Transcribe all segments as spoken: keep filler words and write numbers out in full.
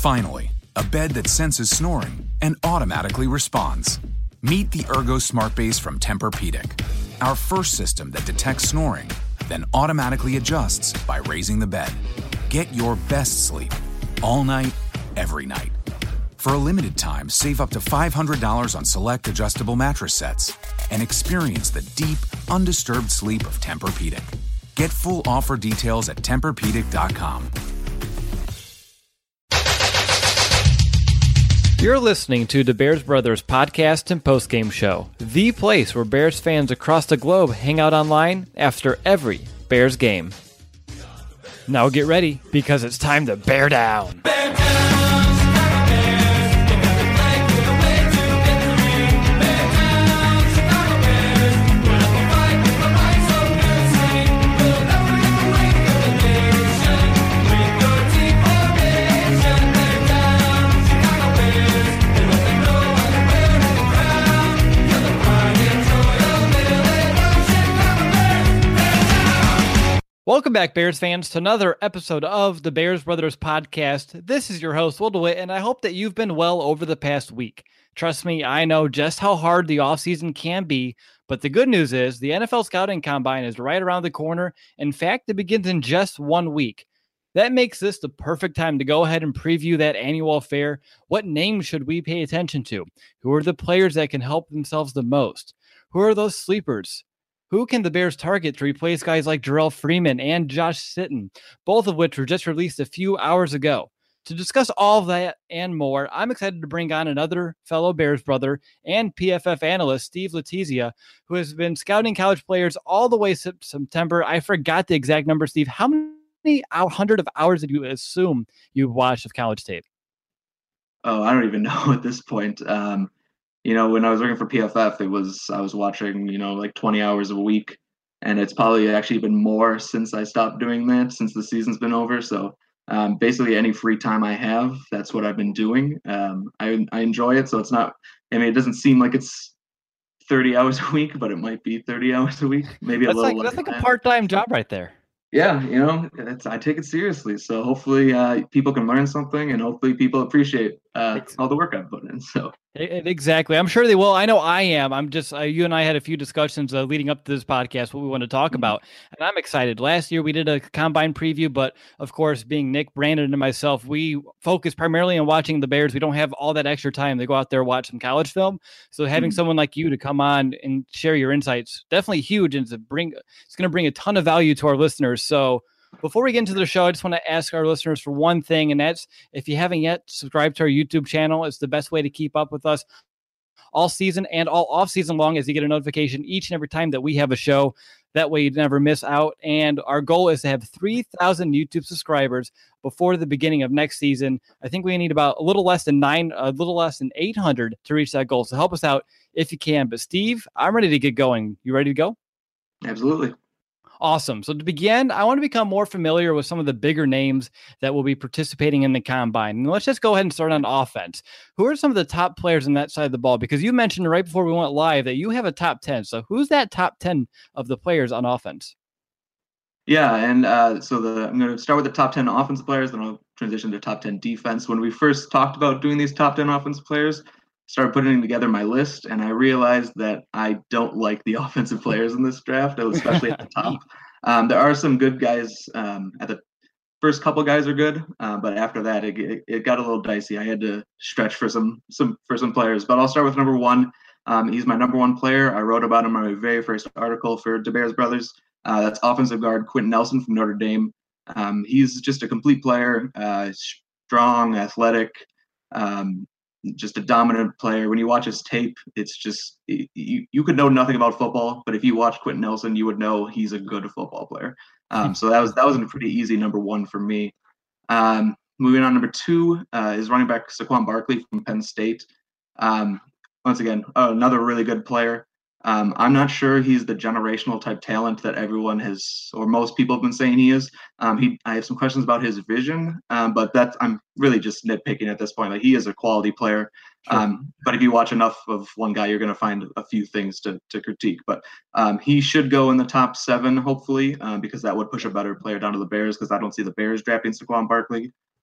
Finally, a bed that senses snoring and automatically responds. Meet the Ergo Smart Base from Tempur-Pedic, our first system that detects snoring, then automatically adjusts by raising the bed. Get your best sleep all night, every night. For a limited time, save up to five hundred dollars on select adjustable mattress sets and experience the deep, undisturbed sleep of Tempur-Pedic. Get full offer details at Tempur Pedic dot com. You're listening to the Bears Brothers podcast and postgame show, the place where Bears fans across the globe hang out online after every Bears game. Now get ready, because it's time to bear down. Bear down. Welcome back, Bears fans, to another episode of the Bears Brothers podcast. This is your host, Will DeWitt, and I hope that you've been well over the past week. Trust me, I know just how hard the offseason can be, but the good news is the N F L Scouting Combine is right around the corner. In fact, it begins in just one week. That makes this the perfect time to go ahead and preview that annual affair. What names should we pay attention to? Who are the players that can help themselves the most? Who are those sleepers? Who can the Bears target to replace guys like Jarrell Freeman and Josh Sitton, both of which were just released a few hours ago? To discuss all of that and more, I'm excited to bring on another fellow Bears brother and P F F analyst, Steve Letizia, who has been scouting college players all the way since September. I forgot the exact number, Steve. How many hundred of hours did you assume you watched of college tape? Oh, I don't even know at this point. Um, You know, when I was working for P F F, it was I was watching, you know, like twenty hours a week, and it's probably actually been more since I stopped doing that, since the season's been over. So um, basically, any free time I have, that's what I've been doing. Um, I I enjoy it, so it's not. I mean, it doesn't seem like it's thirty hours a week, but it might be thirty hours a week, maybe that's a little. Like, that's like that. a part-time job right there. Yeah, you know, it's, I take it seriously. So hopefully uh, people can learn something, and hopefully people appreciate uh, all the work I've put in. So exactly, I'm sure they will. I know I am. I'm just uh, you and I had a few discussions uh, leading up to this podcast, what we want to talk mm-hmm. about, and I'm excited. Last year we did a combine preview, but of course, being Nick, Brandon, and myself, we focus primarily on watching the Bears. We don't have all that extra time to go out there and watch some college film. So having mm-hmm. someone like you to come on and share your insights, definitely huge, and to bring it's going to bring a ton of value to our listeners. So before we get into the show, I just want to ask our listeners for one thing, and that's if you haven't yet subscribed to our YouTube channel, it's the best way to keep up with us all season and all off season long, as you get a notification each and every time that we have a show. That way you never miss out. And our goal is to have three thousand YouTube subscribers before the beginning of next season. I think we need about a little less than nine, a little less than eight hundred to reach that goal. So help us out if you can. But Steve, I'm ready to get going. You ready to go? Absolutely. Awesome. So to begin, I want to become more familiar with some of the bigger names that will be participating in the combine. And let's just go ahead and start on offense. Who are some of the top players on that side of the ball? Because you mentioned right before we went live that you have a top ten. So who's that top ten of the players on offense? Yeah, and uh, so the I'm going to start with the top ten offensive players, then I'll transition to top ten defense. When we first talked about doing these top ten offensive players, started putting together my list, and I realized that I don't like the offensive players in this draft, especially at the top. Um, there are some good guys. Um, at the first couple guys are good, uh, but after that, it, it, it got a little dicey. I had to stretch for some some for some players. But I'll start with number one. Um, he's my number one player. I wrote about him in my very first article for the Bears Brothers. Uh, that's offensive guard Quentin Nelson from Notre Dame. Um, he's just a complete player, uh, strong, athletic. Um, just a dominant player. When you watch his tape, it's just you, you could know nothing about football, but if you watch Quentin Nelson, you would know he's a good football player. Um, so that was that was a pretty easy number one for me. Um, moving on, number two uh, is running back Saquon Barkley from Penn State. Um, once again, another really good player. Um, I'm not sure he's the generational type talent that everyone has, or most people have been saying he is. Um, he, I have some questions about his vision, um, but that's I'm really just nitpicking at this point. Like, he is a quality player, sure. um, but if you watch enough of one guy, you're going to find a few things to to critique. But um, he should go in the top seven, hopefully, uh, because that would push a better player down to the Bears. Because I don't see the Bears drafting Saquon Barkley.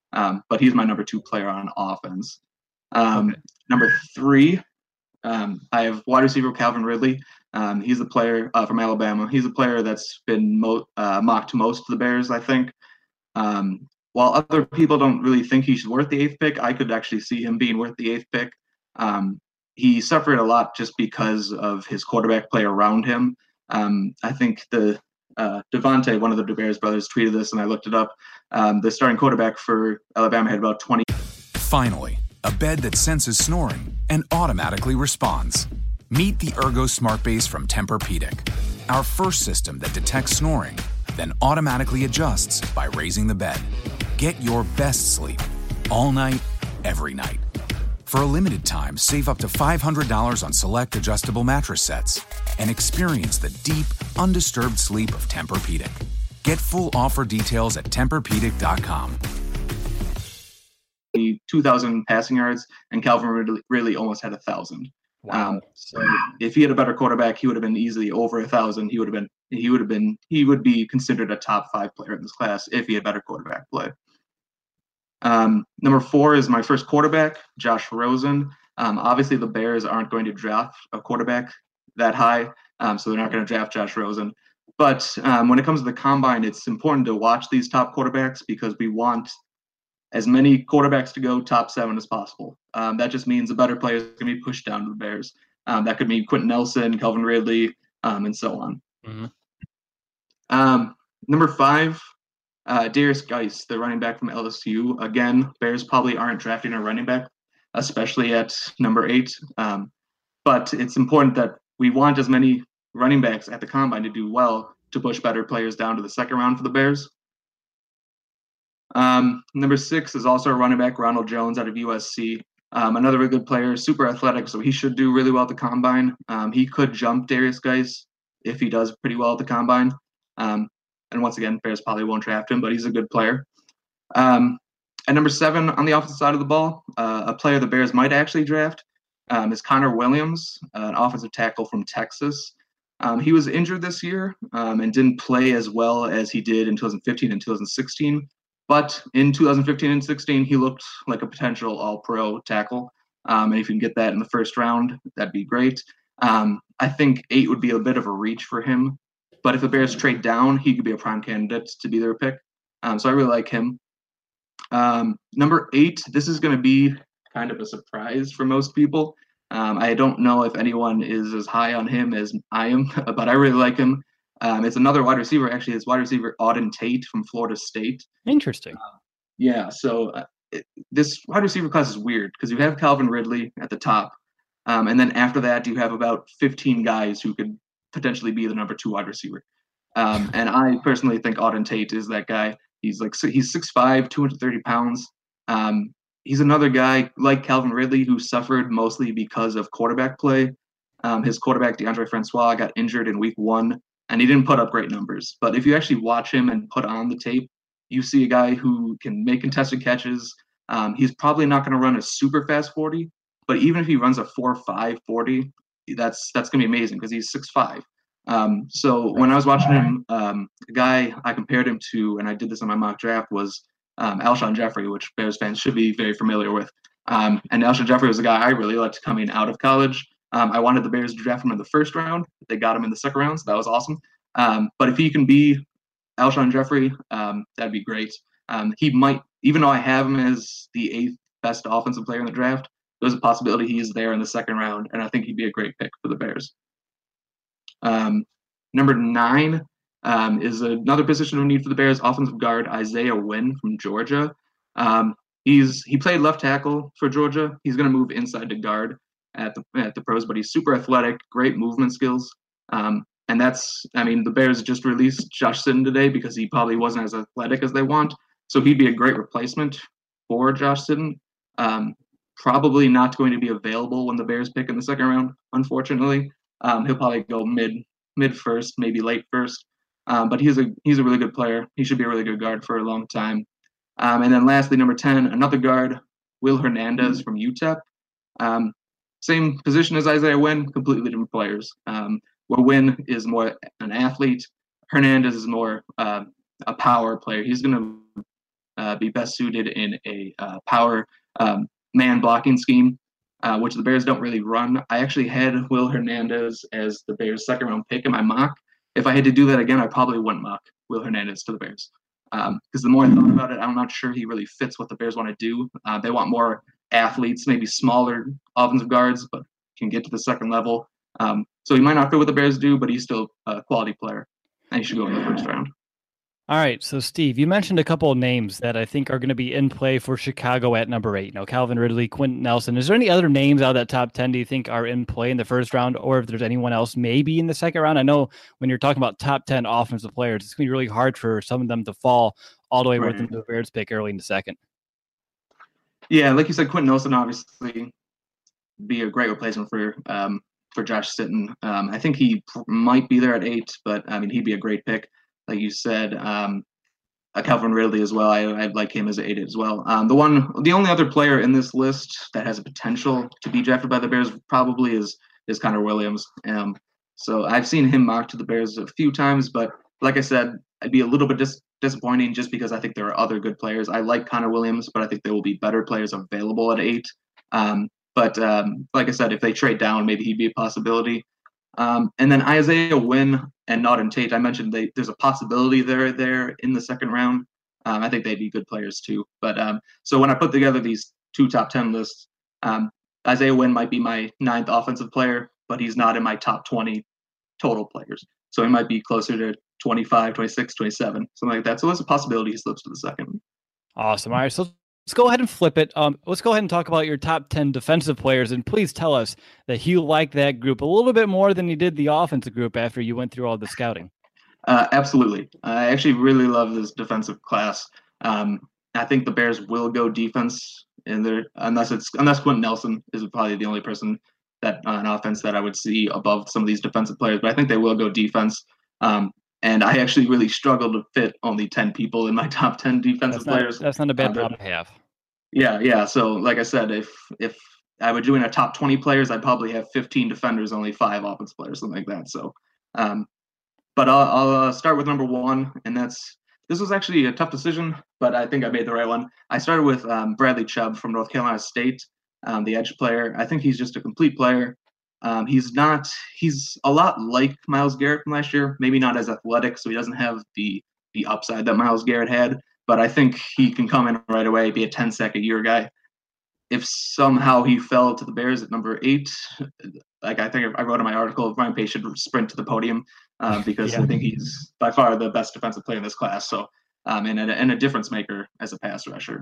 um, but he's my number two player on offense. Um, Okay. Number three, um, I have wide receiver Calvin Ridley. Um, he's a player uh, from Alabama. He's a player that's been mo- uh, mocked most to the Bears, I think. Um, while other people don't really think he's worth the eighth pick, I could actually see him being worth the eighth pick. Um, he suffered a lot just because of his quarterback play around him. Um, I think the uh, Devontae, one of the Bears brothers, tweeted this, and I looked it up. Um, the starting quarterback for Alabama had about twenty. Finally, a bed that senses snoring and automatically responds. Meet the Ergo Smart Base from Tempur-Pedic, our first system that detects snoring, then automatically adjusts by raising the bed. Get your best sleep all night, every night. For a limited time, save up to five hundred dollars on select adjustable mattress sets and experience the deep, undisturbed sleep of Tempur-Pedic. Get full offer details at Tempur Pedic dot com. two thousand passing yards, and Calvin Ridley really almost had one thousand. Wow. Um, so if he had a better quarterback, he would have been easily over one thousand. He would have been he would have been he would be considered a top five player in this class if he had better quarterback play. Um, number four is my first quarterback, Josh Rosen. Um, obviously, the Bears aren't going to draft a quarterback that high, um, so they're not going to draft Josh Rosen. But um, when it comes to the combine, it's important to watch these top quarterbacks because we want as many quarterbacks to go top seven as possible. Um, that just means the better players are going to be pushed down to the Bears. Um, that could mean Quentin Nelson, Calvin Ridley, um, and so on. Mm-hmm. Um, number five, uh, Darius Geis, the running back from L S U. Again, Bears probably aren't drafting a running back, especially at number eight. Um, but it's important that we want as many running backs at the combine to do well to push better players down to the second round for the Bears. Um, number six is also a running back, Ronald Jones out of U S C. Um, another really good player, super athletic, so he should do really well at the combine. Um, he could jump Darius Geis if he does pretty well at the combine. Um, and once again, Bears probably won't draft him, but he's a good player. Um, at number seven on the offensive side of the ball, uh, a player the Bears might actually draft um, is Connor Williams, uh, an offensive tackle from Texas. Um, he was injured this year um, and didn't play as well as he did in two thousand fifteen and two thousand sixteen. But in two thousand fifteen and sixteen, he looked like a potential all-pro tackle. Um, and if you can get that in the first round, that'd be great. Um, I think eight would be a bit of a reach for him. But if the Bears trade down, he could be a prime candidate to be their pick. Um, so I really like him. Um, number eight, this is going to be kind of a surprise for most people. Um, I don't know if anyone is as high on him as I am, but I really like him. Um, it's another wide receiver. Actually, it's wide receiver Auden Tate from Florida State. Interesting. Uh, yeah, so uh, it, this wide receiver class is weird because you have Calvin Ridley at the top, um, and then after that you have about fifteen guys who could potentially be the number two wide receiver. Um, and I personally think Auden Tate is that guy. He's like he's six five, two hundred thirty pounds. Um, he's another guy like Calvin Ridley who suffered mostly because of quarterback play. Um, his quarterback, DeAndre Francois, got injured in week one, and he didn't put up great numbers. But if you actually watch him and put on the tape, you see a guy who can make contested catches. Um, he's probably not going to run a super fast forty, but even if he runs a four five forty, that's that's going to be amazing because he's six five. Um, so when I was watching him, um, the guy I compared him to, and I did this on my mock draft, was um, Alshon Jeffrey, which Bears fans should be very familiar with. Um, and Alshon Jeffrey was a guy I really liked coming out of college. Um, I wanted the Bears to draft him in the first round. They got him in the second round, so that was awesome. Um, but if he can be Alshon Jeffrey, um, that'd be great. Um, he might, even though I have him as the eighth best offensive player in the draft, there's a possibility he's there in the second round, and I think he'd be a great pick for the Bears. Um, number nine um, is another position of need for the Bears, offensive guard Isaiah Wynn from Georgia. Um, he's he played left tackle for Georgia. He's going to move inside to guard at the at the pros, but he's super athletic, great movement skills. Um, and that's, I mean, the Bears just released Josh Sitton today because he probably wasn't as athletic as they want. So he'd be a great replacement for Josh Sitton. Um, probably not going to be available when the Bears pick in the second round, unfortunately. Um, he'll probably go mid mid first, maybe late first. Um, but he's a he's a really good player. He should be a really good guard for a long time. Um, and then lastly, number ten, another guard, Will Hernandez from U T E P. Um, same position as Isaiah Wynn, completely different players. Um, where Wynn is more an athlete, Hernandez is more uh, a power player. He's going to uh, be best suited in a uh, power um, man blocking scheme, uh, which the Bears don't really run. I actually had Will Hernandez as the Bears' second round pick in my mock. If I had to do that again, I probably wouldn't mock Will Hernandez to the Bears. Because um, the more I thought about it, I'm not sure he really fits what the Bears want to do. Uh, they want more athletes, maybe smaller offensive guards, but can get to the second level. Um, so he might not fit what the Bears do, but he's still a quality player, and he should go in the first round. All right, so Steve, you mentioned a couple of names that I think are going to be in play for Chicago at number eight. You know, Calvin Ridley, Quentin Nelson. Is there any other names out of that top ten do you think are in play in the first round, or if there's anyone else maybe in the second round? I know when you're talking about top ten offensive players, it's going to be really hard for some of them to fall all the way Right. within the Bears pick early in the second. Yeah, like you said, Quentin Nelson obviously be a great replacement for um, for Josh Sitton. Um, I think he p- might be there at eight, but I mean, he'd be a great pick. Like you said, um, uh, Calvin Ridley as well. I, I'd like him as an eight as well. Um, the one, the only other player in this list that has a potential to be drafted by the Bears probably is is Connor Williams. Um, so I've seen him mocked to the Bears a few times, but like I said, I'd be a little bit dis- disappointing just because I think there are other good players. I like Connor Williams, but I think there will be better players available at eight. Um, but um, like I said, if they trade down, maybe he'd be a possibility. Um, and then Isaiah Wynn and Auden Tate, I mentioned they, there's a possibility they're there in the second round. Um, I think they'd be good players too. But um, so when I put together these two top ten lists, um, Isaiah Wynn might be my ninth offensive player, but he's not in my top twenty total players. So he might be closer to twenty-five, twenty-six, twenty-seven, something like that. So there's a possibility he slips to the second. Awesome. All right, so let's go ahead and flip it. Um, let's go ahead and talk about your top ten defensive players, and please tell us that you like that group a little bit more than you did the offensive group after you went through all the scouting. Uh, absolutely. I actually really love this defensive class. Um, I think the Bears will go defense in there, unless it's unless Quentin Nelson is probably the only person that uh, an offense that I would see above some of these defensive players. But I think they will go defense. Um, and I actually really struggled to fit only ten people in my top ten defensive That's not, players. that's not a bad Uh, problem to have. Yeah, yeah. So like I said, if if I were doing a top twenty players, I'd probably have fifteen defenders, only five offense players, something like that. So, um, but I'll, I'll uh, start with number one, and that's this was actually a tough decision, but I think I made the right one. I started with um, Bradley Chubb from North Carolina State, um, the edge player. I think he's just a complete player. Um, he's not. He's a lot like Myles Garrett from last year. Maybe not as athletic, so he doesn't have the the upside that Myles Garrett had. But I think he can come in right away, be a ten sack a year guy. If somehow he fell to the Bears at number eight, like I think I wrote in my article, Ryan Pace should sprint to the podium uh, because yeah. I think he's by far the best defensive player in this class. So, um, and, a, and a difference maker as a pass rusher.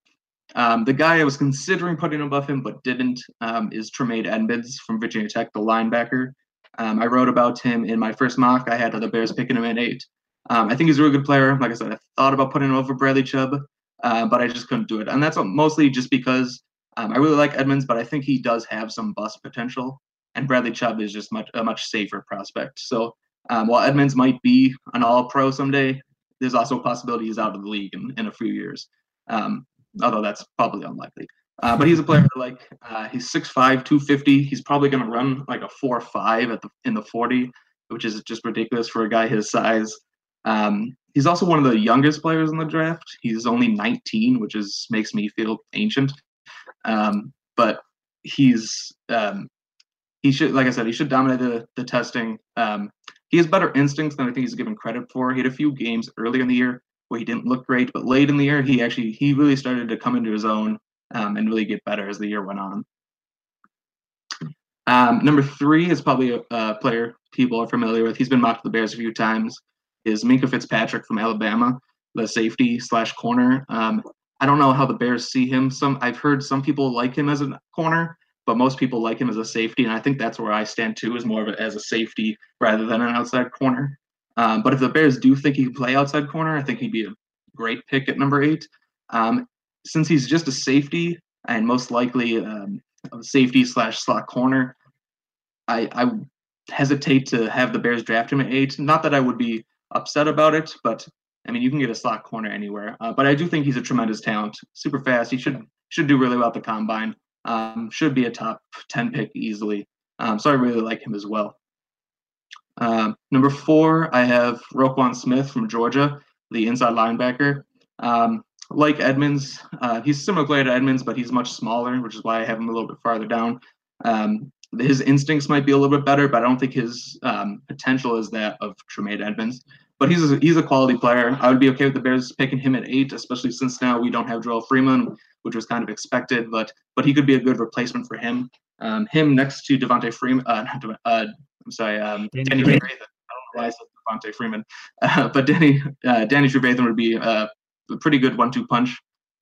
Um, the guy I was considering putting above him but didn't um, is Tremaine Edmunds from Virginia Tech, the linebacker. Um, I wrote about him in my first mock. I had the Bears picking him at eight. Um, I think he's a really good player. Like I said, I thought about putting him over Bradley Chubb, uh, but I just couldn't do it. And that's mostly just because um, I really like Edmunds, but I think he does have some bust potential. And Bradley Chubb is just much a much safer prospect. So um, while Edmunds might be an all-pro someday, there's also a possibility he's out of the league in, in a few years, um, although that's probably unlikely. Uh, but he's a player like uh, he's six five, two fifty. He's probably going to run like a four five at the in the forty, which is just ridiculous for a guy his size. Um, he's also one of the youngest players in the draft. He's only nineteen, which is makes me feel ancient. Um, but he's um, he should, like I said, he should dominate the the testing. Um, he has better instincts than I think he's given credit for. He had a few games early in the year where he didn't look great, but late in the year, he actually he really started to come into his own um, and really get better as the year went on. Um, number three is probably a, a player people are familiar with. He's been mocked to the Bears a few times. Is Minkah Fitzpatrick from Alabama, the safety slash corner. Um, I don't know how the Bears see him. Some I've heard some people like him as a corner, but most people like him as a safety, and I think that's where I stand too, is more of it as a safety rather than an outside corner. Um, but if the Bears do think he can play outside corner, I think he'd be a great pick at number eight. Um, since he's just a safety and most likely um, a safety slash slot corner, I, I hesitate to have the Bears draft him at eight. Not that I would be upset about it, but I mean, you can get a slot corner anywhere. Uh, but I do think he's a tremendous talent, super fast. He should should do really well at the combine. Um, should be a top ten pick easily. Um, so I really like him as well. Um, number four, I have Roquan Smith from Georgia, the inside linebacker. Um, like Edmonds. Uh, he's a similar player to Edmonds, but he's much smaller, which is why I have him a little bit farther down. Um, his instincts might be a little bit better, but I don't think his um, potential is that of Tremaine Edmonds. But he's a, he's a quality player. I would be okay with the Bears picking him at eight, especially since now we don't have Joel Freeman, which was kind of expected. But but he could be a good replacement for him. Um, him next to Devontae Freeman. Uh, uh, I'm sorry, um, Danny Trevathan. I don't know why I said Devontae Freeman, uh, but Danny uh, Danny Trevathan would be uh, a pretty good one-two punch.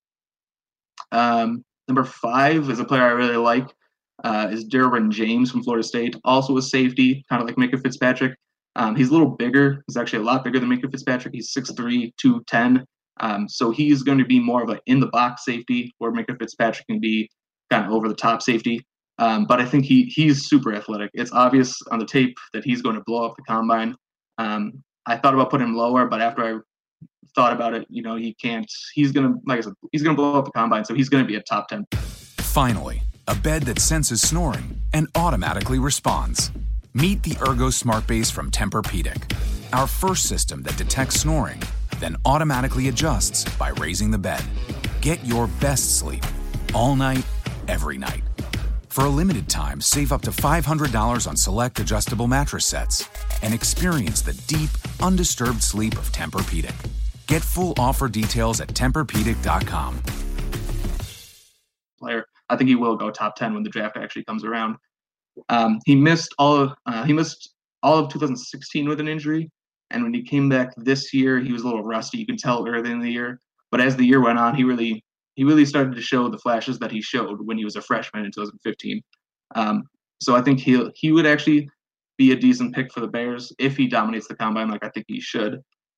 Um, number five is a player I really like. Uh, is Derwin James from Florida State, also a safety, kind of like Minkah Fitzpatrick. Um, he's a little bigger. He's actually a lot bigger than Minkah Fitzpatrick. He's six three, two ten. Um, so he's going to be more of an in-the-box safety, where Minkah Fitzpatrick can be kind of over-the-top safety. Um, but I think he he's super athletic. It's obvious on the tape that he's going to blow up the combine. Um, I thought about putting him lower, but after I thought about it, you know, he can't. He's going to, like I said, he's going to blow up the combine, so he's going to be a top ten. Finally, a bed that senses snoring and automatically responds. Meet the Ergo Smart Base from Tempur-Pedic, our first system that detects snoring, then automatically adjusts by raising the bed. Get your best sleep all night, every night. For a limited time, save up to five hundred dollars on select adjustable mattress sets and experience the deep, undisturbed sleep of Tempur-Pedic. Get full offer details at Tempur Pedic dot com. Player, I think he will go top ten when the draft actually comes around. Um, he missed all of uh, he missed all of two thousand sixteen with an injury, and when he came back this year, he was a little rusty. You can tell early in the year, but as the year went on, he really he really started to show the flashes that he showed when he was a freshman in two thousand fifteen. Um, so I think he he would actually be a decent pick for the Bears if he dominates the combine like I think he should.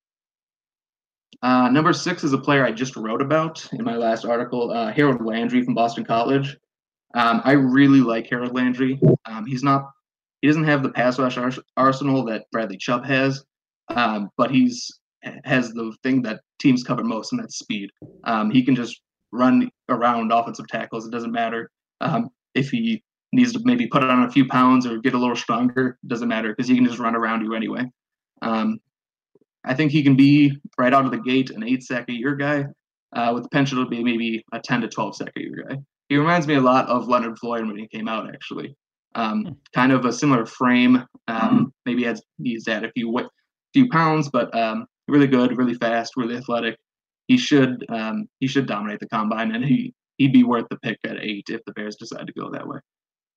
Uh, number six is a player I just wrote about in my last article, uh, Harold Landry from Boston College. Um, I really like Harold Landry. Um, he's not, he doesn't have the pass rush ars- arsenal that Bradley Chubb has, um, but he's has the thing that teams cover most, and that's speed. Um, he can just run around offensive tackles. It doesn't matter um, if he needs to maybe put on a few pounds or get a little stronger. It doesn't matter because he can just run around you anyway. Um, I think he can be right out of the gate an eight sack a year guy uh, with the potential to be maybe a ten to twelve sack a year guy. He reminds me a lot of Leonard Floyd when he came out, actually. Um, kind of a similar frame. Um, maybe has, he's at a few few pounds, but um, really good, really fast, really athletic. He should um, he should dominate the combine, and he he'd be worth the pick at eight if the Bears decide to go that way.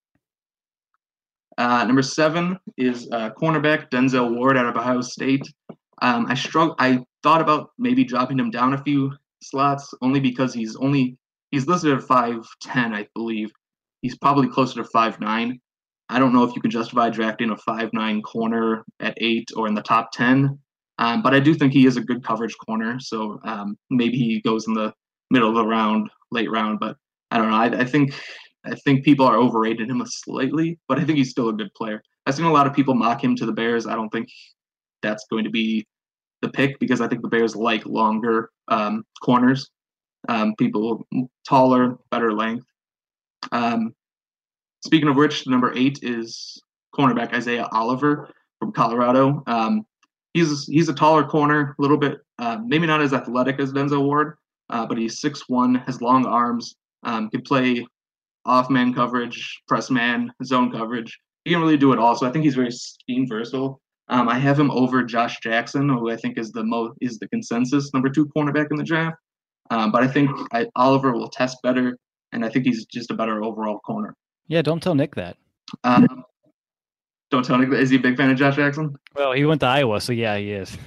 Uh, number seven is uh, cornerback Denzel Ward out of Ohio State. Um, I struggle. I thought about maybe dropping him down a few slots, only because he's only he's listed at five ten, I believe. He's probably closer to five nine. I don't know if you can justify drafting a five nine corner at eight or in the top ten, um, but I do think he is a good coverage corner. So um, maybe he goes in the middle of the round, late round. But I don't know. I, I think I think people are overrated him slightly, but I think he's still a good player. I've seen a lot of people mock him to the Bears. I don't think that's going to be the pick because I think the Bears like longer um, corners, um, people taller, better length. Um, speaking of which, number eight is cornerback Isaiah Oliver from Colorado. Um, he's he's a taller corner, a little bit, uh, maybe not as athletic as Denzel Ward, uh, but he's six one, has long arms, um, can play off-man coverage, press man, zone coverage. He can really do it all. So I think he's very scheme versatile. Um, I have him over Josh Jackson, who I think is the mo is the consensus number two cornerback in the draft. Um, but I think I, Oliver will test better, and I think he's just a better overall corner. Yeah, don't tell Nick that. Um, don't tell Nick that. Is he a big fan of Josh Jackson? Well, he went to Iowa, so yeah, he is.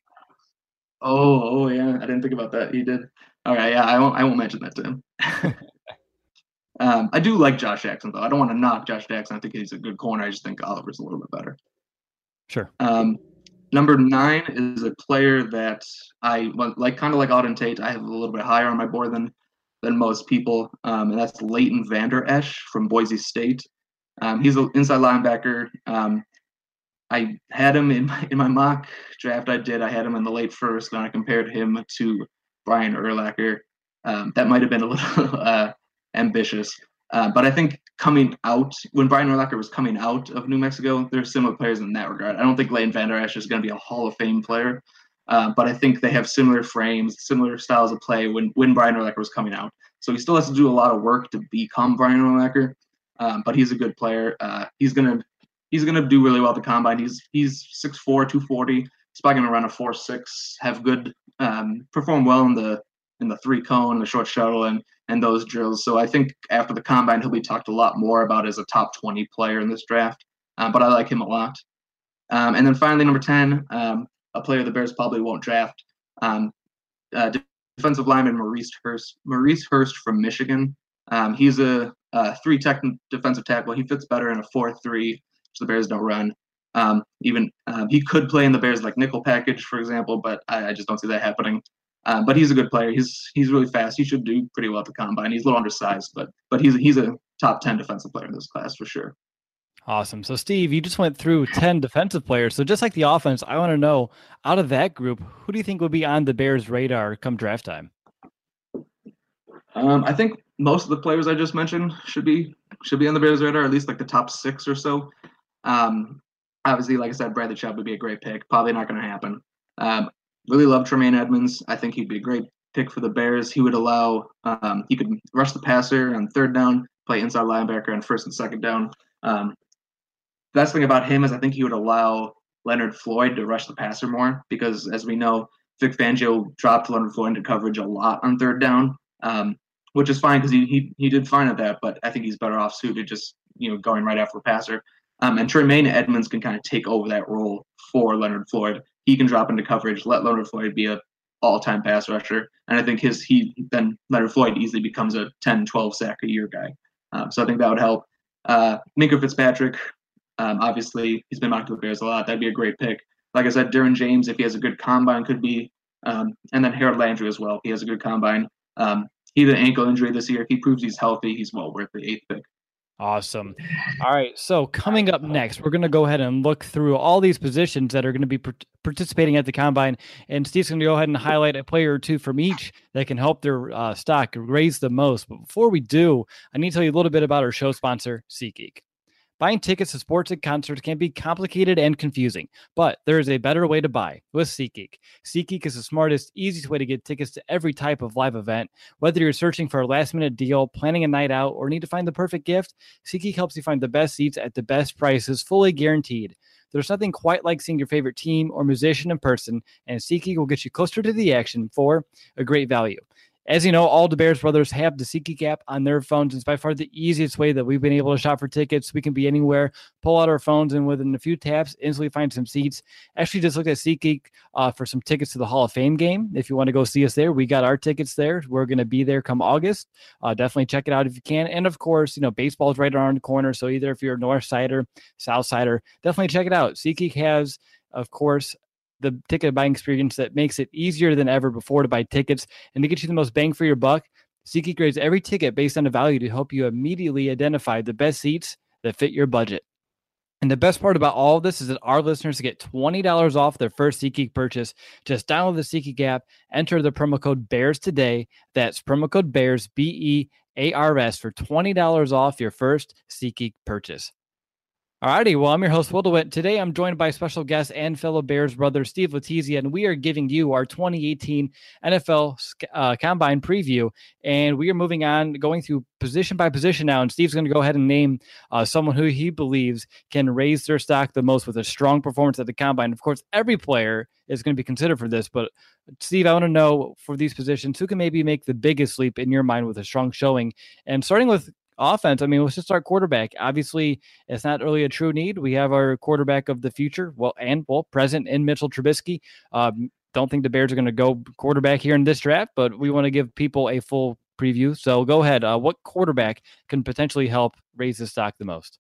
Oh, oh yeah, I didn't think about that. He did. All right, yeah, I won't. I won't mention that to him. um, I do like Josh Jackson, though. I don't want to knock Josh Jackson. I think he's a good corner. I just think Oliver's a little bit better. Sure. Um, number nine is a player that I like, kind of like Auden Tate. I have a little bit higher on my board than than most people, um, and that's Leighton Vander Esch from Boise State. Um, he's an inside linebacker. Um, I had him in my, in my mock draft. I did. I had him in the late first, and I compared him to Brian Urlacher. Um, that might have been a little uh, ambitious. Uh, but I think coming out, when Brian Urlacher was coming out of New Mexico, there's similar players in that regard. I don't think Leighton Vander Esch is going to be a Hall of Fame player, Uh, but I think they have similar frames, similar styles of play when, when Brian Urlacher was coming out. So he still has to do a lot of work to become Brian Urlacher, um, but he's a good player. Uh, he's gonna he's gonna do really well at the combine. He's he's six four, two forty. He's probably gonna run a four six, have good um, perform well in the in the three cone, the short shuttle, and and those drills. So I think after the combine, he'll be talked a lot more about as a top twenty player in this draft. Um, but I like him a lot. Um, and then finally, number ten, um, a player the Bears probably won't draft. Um, uh, defensive lineman Maurice Hurst. Maurice Hurst from Michigan. Um, he's a, a three tech defensive tackle. He fits better in a four three, which the Bears don't run. Um, even um, he could play in the Bears like nickel package, for example, but I, I just don't see that happening. Um, but he's a good player. He's he's really fast. He should do pretty well at the combine. He's a little undersized, but but he's he's a top ten defensive player in this class for sure. Awesome. So, Steve, you just went through ten defensive players. So, just like the offense, I want to know, out of that group, who do you think would be on the Bears' radar come draft time? Um, I think most of the players I just mentioned should be should be on the Bears' radar, at least like the top six or so. Um, obviously, like I said, Bradley Chubb would be a great pick. Probably not going to happen. Um, really love Tremaine Edmonds. I think he'd be a great pick for the Bears. He would allow um, he could rush the passer on third down, play inside linebacker on first and second down. Um, Best thing about him is I think he would allow Leonard Floyd to rush the passer more because, as we know, Vic Fangio dropped Leonard Floyd into coverage a lot on third down, um, which is fine because he, he he did fine at that. But I think he's better off suited just you know going right after the passer. Um, and Tremaine Edmonds can kind of take over that role for Leonard Floyd. He can drop into coverage, let Leonard Floyd be a all-time pass rusher, and I think his he then Leonard Floyd easily becomes a ten, twelve sack a year guy. Um, so I think that would help. Uh, Minkah Fitzpatrick. Um, obviously, he's been mocked to the Bears a lot. That'd be a great pick. Like I said, Derwin James, if he has a good combine, could be. Um, and then Harold Landry as well. He has a good combine. Um, he had an ankle injury this year. If he proves he's healthy, he's well worth the eighth pick. Awesome. All right. So coming up next, we're going to go ahead and look through all these positions that are going to be per- participating at the combine. And Steve's going to go ahead and highlight a player or two from each that can help their uh, stock raise the most. But before we do, I need to tell you a little bit about our show sponsor, SeatGeek. Buying tickets to sports and concerts can be complicated and confusing, but there is a better way to buy with SeatGeek. SeatGeek is the smartest, easiest way to get tickets to every type of live event. Whether you're searching for a last-minute deal, planning a night out, or need to find the perfect gift, SeatGeek helps you find the best seats at the best prices, fully guaranteed. There's nothing quite like seeing your favorite team or musician in person, and SeatGeek will get you closer to the action for a great value. As you know, all the Bears brothers have the SeatGeek app on their phones. It's by far the easiest way that we've been able to shop for tickets. We can be anywhere, pull out our phones, and within a few taps, instantly find some seats. Actually, just look at SeatGeek uh, for some tickets to the Hall of Fame game. If you want to go see us there, we got our tickets there. We're going to be there come August. Uh, definitely check it out if you can. And of course, you know, baseball's right around the corner. So either if you're a North Sider, South Sider, definitely check it out. SeatGeek has, of course, the ticket buying experience that makes it easier than ever before to buy tickets and to get you the most bang for your buck. SeatGeek grades every ticket based on a value to help you immediately identify the best seats that fit your budget. And the best part about all of this is that our listeners get twenty dollars off their first SeatGeek purchase. Just download the SeatGeek app, enter the promo code BEARS today. That's promo code BEARS, B E A R S, for twenty dollars off your first SeatGeek purchase. Alrighty, well, I'm your host, Will DeWitt. Today, I'm joined by special guest and fellow Bears brother, Steve Letizia, and we are giving you our twenty eighteen N F L uh, Combine preview. And we are moving on, going through position by position now. And Steve's going to go ahead and name uh, someone who he believes can raise their stock the most with a strong performance at the Combine. Of course, every player is going to be considered for this. But, Steve, I want to know for these positions, who can maybe make the biggest leap in your mind with a strong showing? And starting with offense, I mean, let's just start quarterback. Obviously, it's not really a true need. We have our quarterback of the future, well, and well, present in Mitchell Trubisky. Um, don't think the Bears are going to go quarterback here in this draft, but we want to give people a full preview. So go ahead. Uh, what quarterback can potentially help raise the stock the most?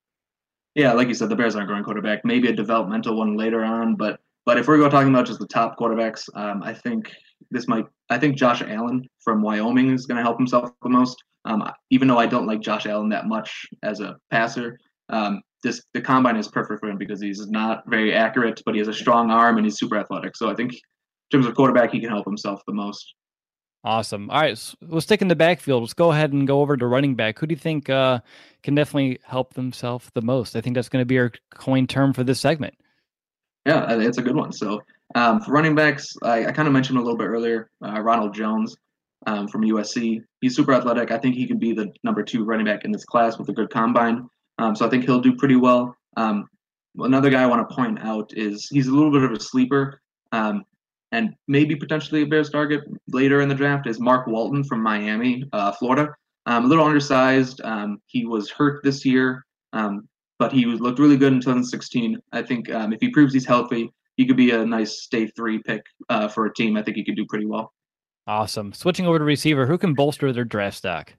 Yeah, like you said, the Bears aren't going quarterback. Maybe a developmental one later on, but but if we're going talking about just the top quarterbacks, um, I think this might. I think Josh Allen from Wyoming is going to help himself the most. Um, even though I don't like Josh Allen that much as a passer, um, this the combine is perfect for him because he's not very accurate, but he has a strong arm and he's super athletic. So I think in terms of quarterback, he can help himself the most. Awesome. All right, so we'll stick in the backfield. Let's go ahead and go over to running back. Who do you think uh, can definitely help themselves the most? I think that's going to be our coin term for this segment. Yeah, it's a good one. So Um, for running backs, I, I kind of mentioned a little bit earlier, uh, Ronald Jones um, from U S C. He's super athletic. I think he can be the number two running back in this class with a good combine. Um, so I think he'll do pretty well. Um, another guy I want to point out is he's a little bit of a sleeper um, and maybe potentially a Bears target later in the draft is Mark Walton from Miami, uh, Florida. Um, a little undersized. Um, he was hurt this year, um, but he was, looked really good in twenty sixteen. I think um, if he proves he's healthy, he could be a nice day three pick uh, for a team. I think he could do pretty well. Awesome. Switching over to receiver, who can bolster their draft stock?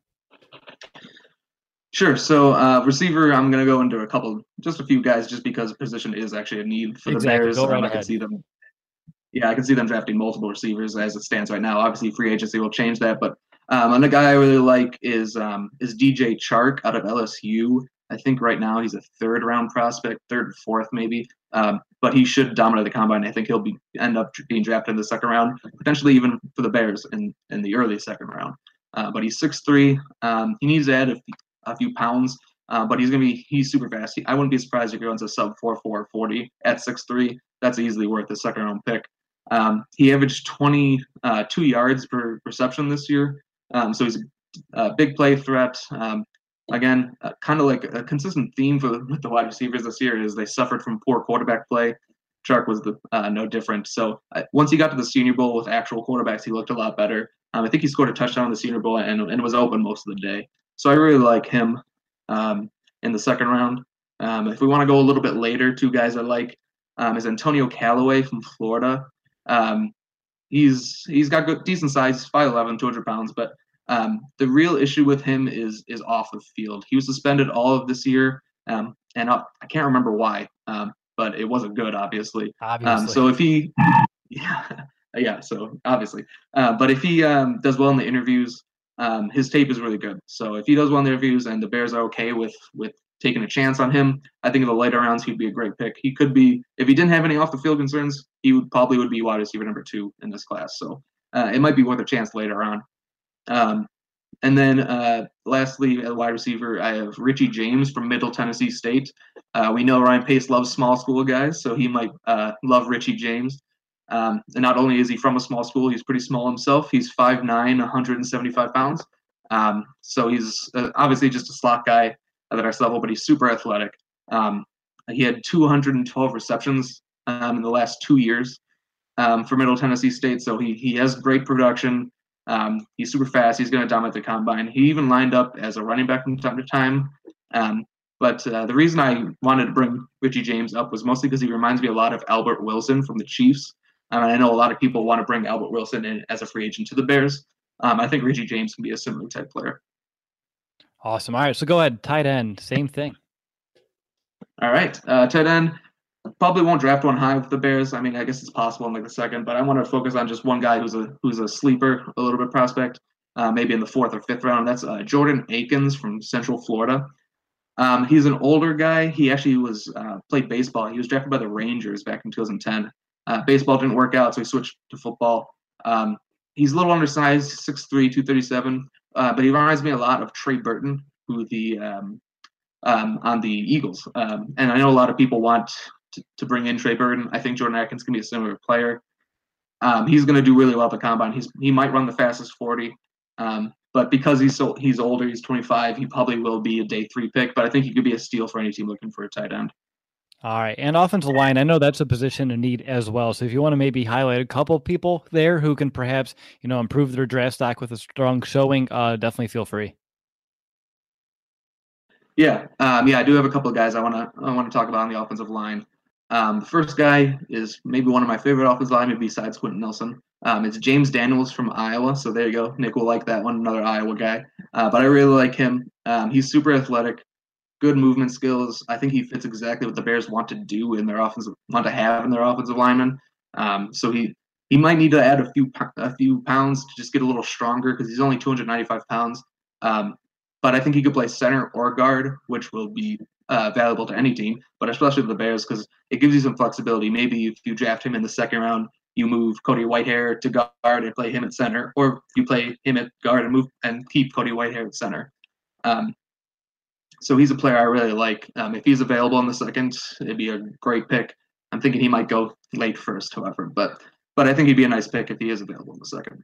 Sure. So uh, receiver, I'm going to go into a couple, just a few guys, just because position is actually a need for the exactly. Bears. Go right um, I ahead. can see them. Yeah, I can see them drafting multiple receivers as it stands right now. Obviously, free agency will change that, but um, another guy I really like is um, is D J Chark out of L S U. I think right now he's a third round prospect, third, fourth maybe. Um, but he should dominate the combine. I think he'll be end up being drafted in the second round, potentially even for the Bears in, in the early second round. Uh, but he's six three. Um, he needs to add a, a few pounds, uh, but he's gonna be he's super fast. He, I wouldn't be surprised if he runs a sub four four forty at six three. That's easily worth a second round pick. Um, he averaged twenty-two yards per reception this year, um, so he's a, a big play threat. Um, again, uh, kind of like a consistent theme for the, with the wide receivers this year is they suffered from poor quarterback play. Chark was the uh, no different. So uh, once he got to the Senior Bowl with actual quarterbacks, he looked a lot better. Um, I think he scored a touchdown in the Senior Bowl and, and was open most of the day. So I really like him um, in the second round. Um, if we want to go a little bit later, two guys I like um, is Antonio Callaway from Florida. Um, he's he's got good, decent size, five eleven, two hundred pounds, but um, the real issue with him is is off the field. He was suspended all of this year, um, and I, I can't remember why, um, but it wasn't good, obviously. Obviously. Um, so if he, yeah, yeah, so obviously, uh, but if he um, does well in the interviews, um, his tape is really good. So if he does well in the interviews and the Bears are okay with with taking a chance on him, I think in the later rounds he'd be a great pick. He could be, if he didn't have any off the field concerns, he would probably would be wide receiver number two in this class. So uh, it might be worth a chance later on. Um, and then uh, lastly, at wide receiver, I have Richie James from Middle Tennessee State. Uh, we know Ryan Pace loves small school guys, so he might uh, love Richie James. Um, and not only is he from a small school, he's pretty small himself. He's five nine, one hundred seventy-five pounds. Um, so he's uh, obviously just a slot guy at the next level, but he's super athletic. Um, he had two hundred twelve receptions um, in the last two years um, for Middle Tennessee State, so he he has great production. Um, he's super fast. He's going to dominate the combine. He even lined up as a running back from time to time. Um, but uh, the reason I wanted to bring Richie James up was mostly because he reminds me a lot of Albert Wilson from the Chiefs. Um, and I know a lot of people want to bring Albert Wilson in as a free agent to the Bears. Um, I think Richie James can be a similar type player. Awesome. All right, so go ahead. Tight end, same thing. All right, uh, tight end. Probably won't draft one high with the Bears. I mean, I guess it's possible in like the second, but I want to focus on just one guy who's a who's a sleeper, a little bit prospect, uh, maybe in the fourth or fifth round. That's uh, Jordan Akins from Central Florida. Um, he's an older guy. He actually was uh, played baseball. He was drafted by the Rangers back in two thousand ten. Uh, baseball didn't work out, so he switched to football. Um, he's a little undersized, six three, two thirty-seven, uh, but he reminds me a lot of Trey Burton, who the um, um, on the Eagles. Um, and I know a lot of people want to, to bring in Trey Burton. I think Jordan Akins can be a similar player. Um, he's going to do really well at the combine. He's he might run the fastest forty, um, but because he's so he's older, he's twenty-five. He probably will be a day three pick. But I think he could be a steal for any team looking for a tight end. All right, and offensive line, I know that's a position in need as well. So if you want to maybe highlight a couple people there who can perhaps, you know, improve their draft stock with a strong showing, uh, definitely feel free. Yeah, um, yeah, I do have a couple of guys I want to I want to talk about on the offensive line. Um, the first guy is maybe one of my favorite offensive linemen besides Quentin Nelson. Um, it's James Daniels from Iowa. So there you go. Nick will like that one, another Iowa guy. Uh, but I really like him. Um, he's super athletic, good movement skills. I think he fits exactly what the Bears want to do in their offensive, want to have in their offensive lineman. Um, so he he might need to add a few a few pounds to just get a little stronger because he's only two hundred ninety-five pounds. Um, but I think he could play center or guard, which will be uh, valuable to any team, but especially the Bears because it gives you some flexibility. Maybe if you draft him in the second round, you move Cody Whitehair to guard and play him at center, or you play him at guard and move and keep Cody Whitehair at center. Um, so he's a player I really like. Um, if he's available in the second, it'd be a great pick. I'm thinking he might go late first, however, but but I think he'd be a nice pick if he is available in the second.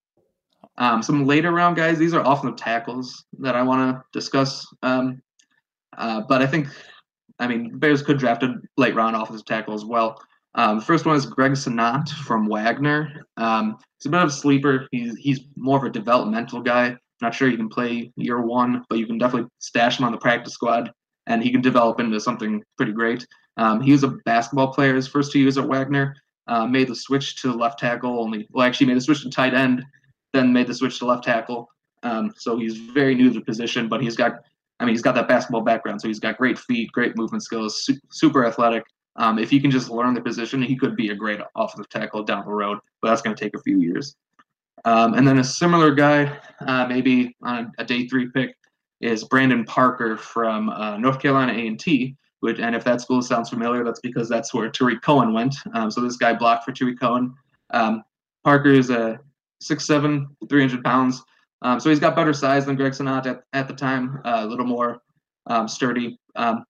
Um, some later round guys, these are offensive tackles that I want to discuss. Um, uh, but I think, I mean, the Bears could draft a late round offensive tackle as well. Um, the first one is Greg Senat from Wagner. Um, he's a bit of a sleeper. He's he's more of a developmental guy. Not sure he can play year one, but you can definitely stash him on the practice squad, and he can develop into something pretty great. Um, he was a basketball player his first two years at Wagner. Uh, made the switch to left tackle only. Well, actually made the switch to tight end, then made the switch to left tackle. Um, so he's very new to the position, but he's got, I mean, he's got that basketball background. So he's got great feet, great movement skills, su- super athletic. Um, if he can just learn the position, he could be a great offensive tackle down the road, but that's going to take a few years. Um, and then a similar guy, uh, maybe on a day three pick, is Brandon Parker from uh, North Carolina A and T. Which, and if that school sounds familiar, that's because that's where Tariq Cohen went. Um, so this guy blocked for Tariq Cohen. Um, Parker is a six seven, three hundred pounds. Um, so he's got better size than Greg Senat at, at the time, uh, a little more um, sturdy. Um,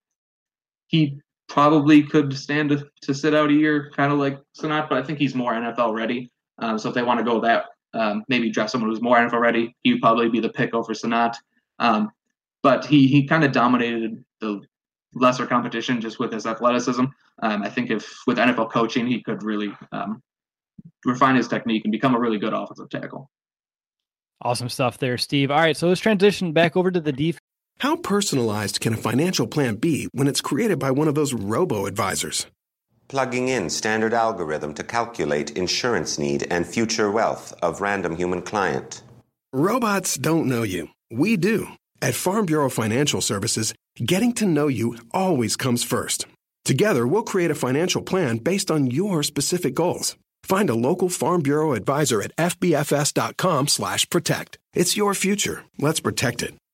he probably could stand to, to sit out a year, kind of like Senat, but I think he's more N F L ready. Um, so if they want to go that, um, maybe draft someone who's more N F L ready, he would probably be the pick over Senat. Um, but he he kind of dominated the lesser competition just with his athleticism. Um, I think if with N F L coaching, he could really um, refine his technique and become a really good offensive tackle. Awesome stuff there, Steve. All right, so let's transition back over to the defense. How personalized can a financial plan be when it's created by one of those robo-advisors? Plugging in standard algorithm to calculate insurance need and future wealth of random human client. Robots don't know you. We do. At Farm Bureau Financial Services, getting to know you always comes first. Together, we'll create a financial plan based on your specific goals. Find a local Farm Bureau advisor at fbfs.com slash protect. It's your future. Let's protect it.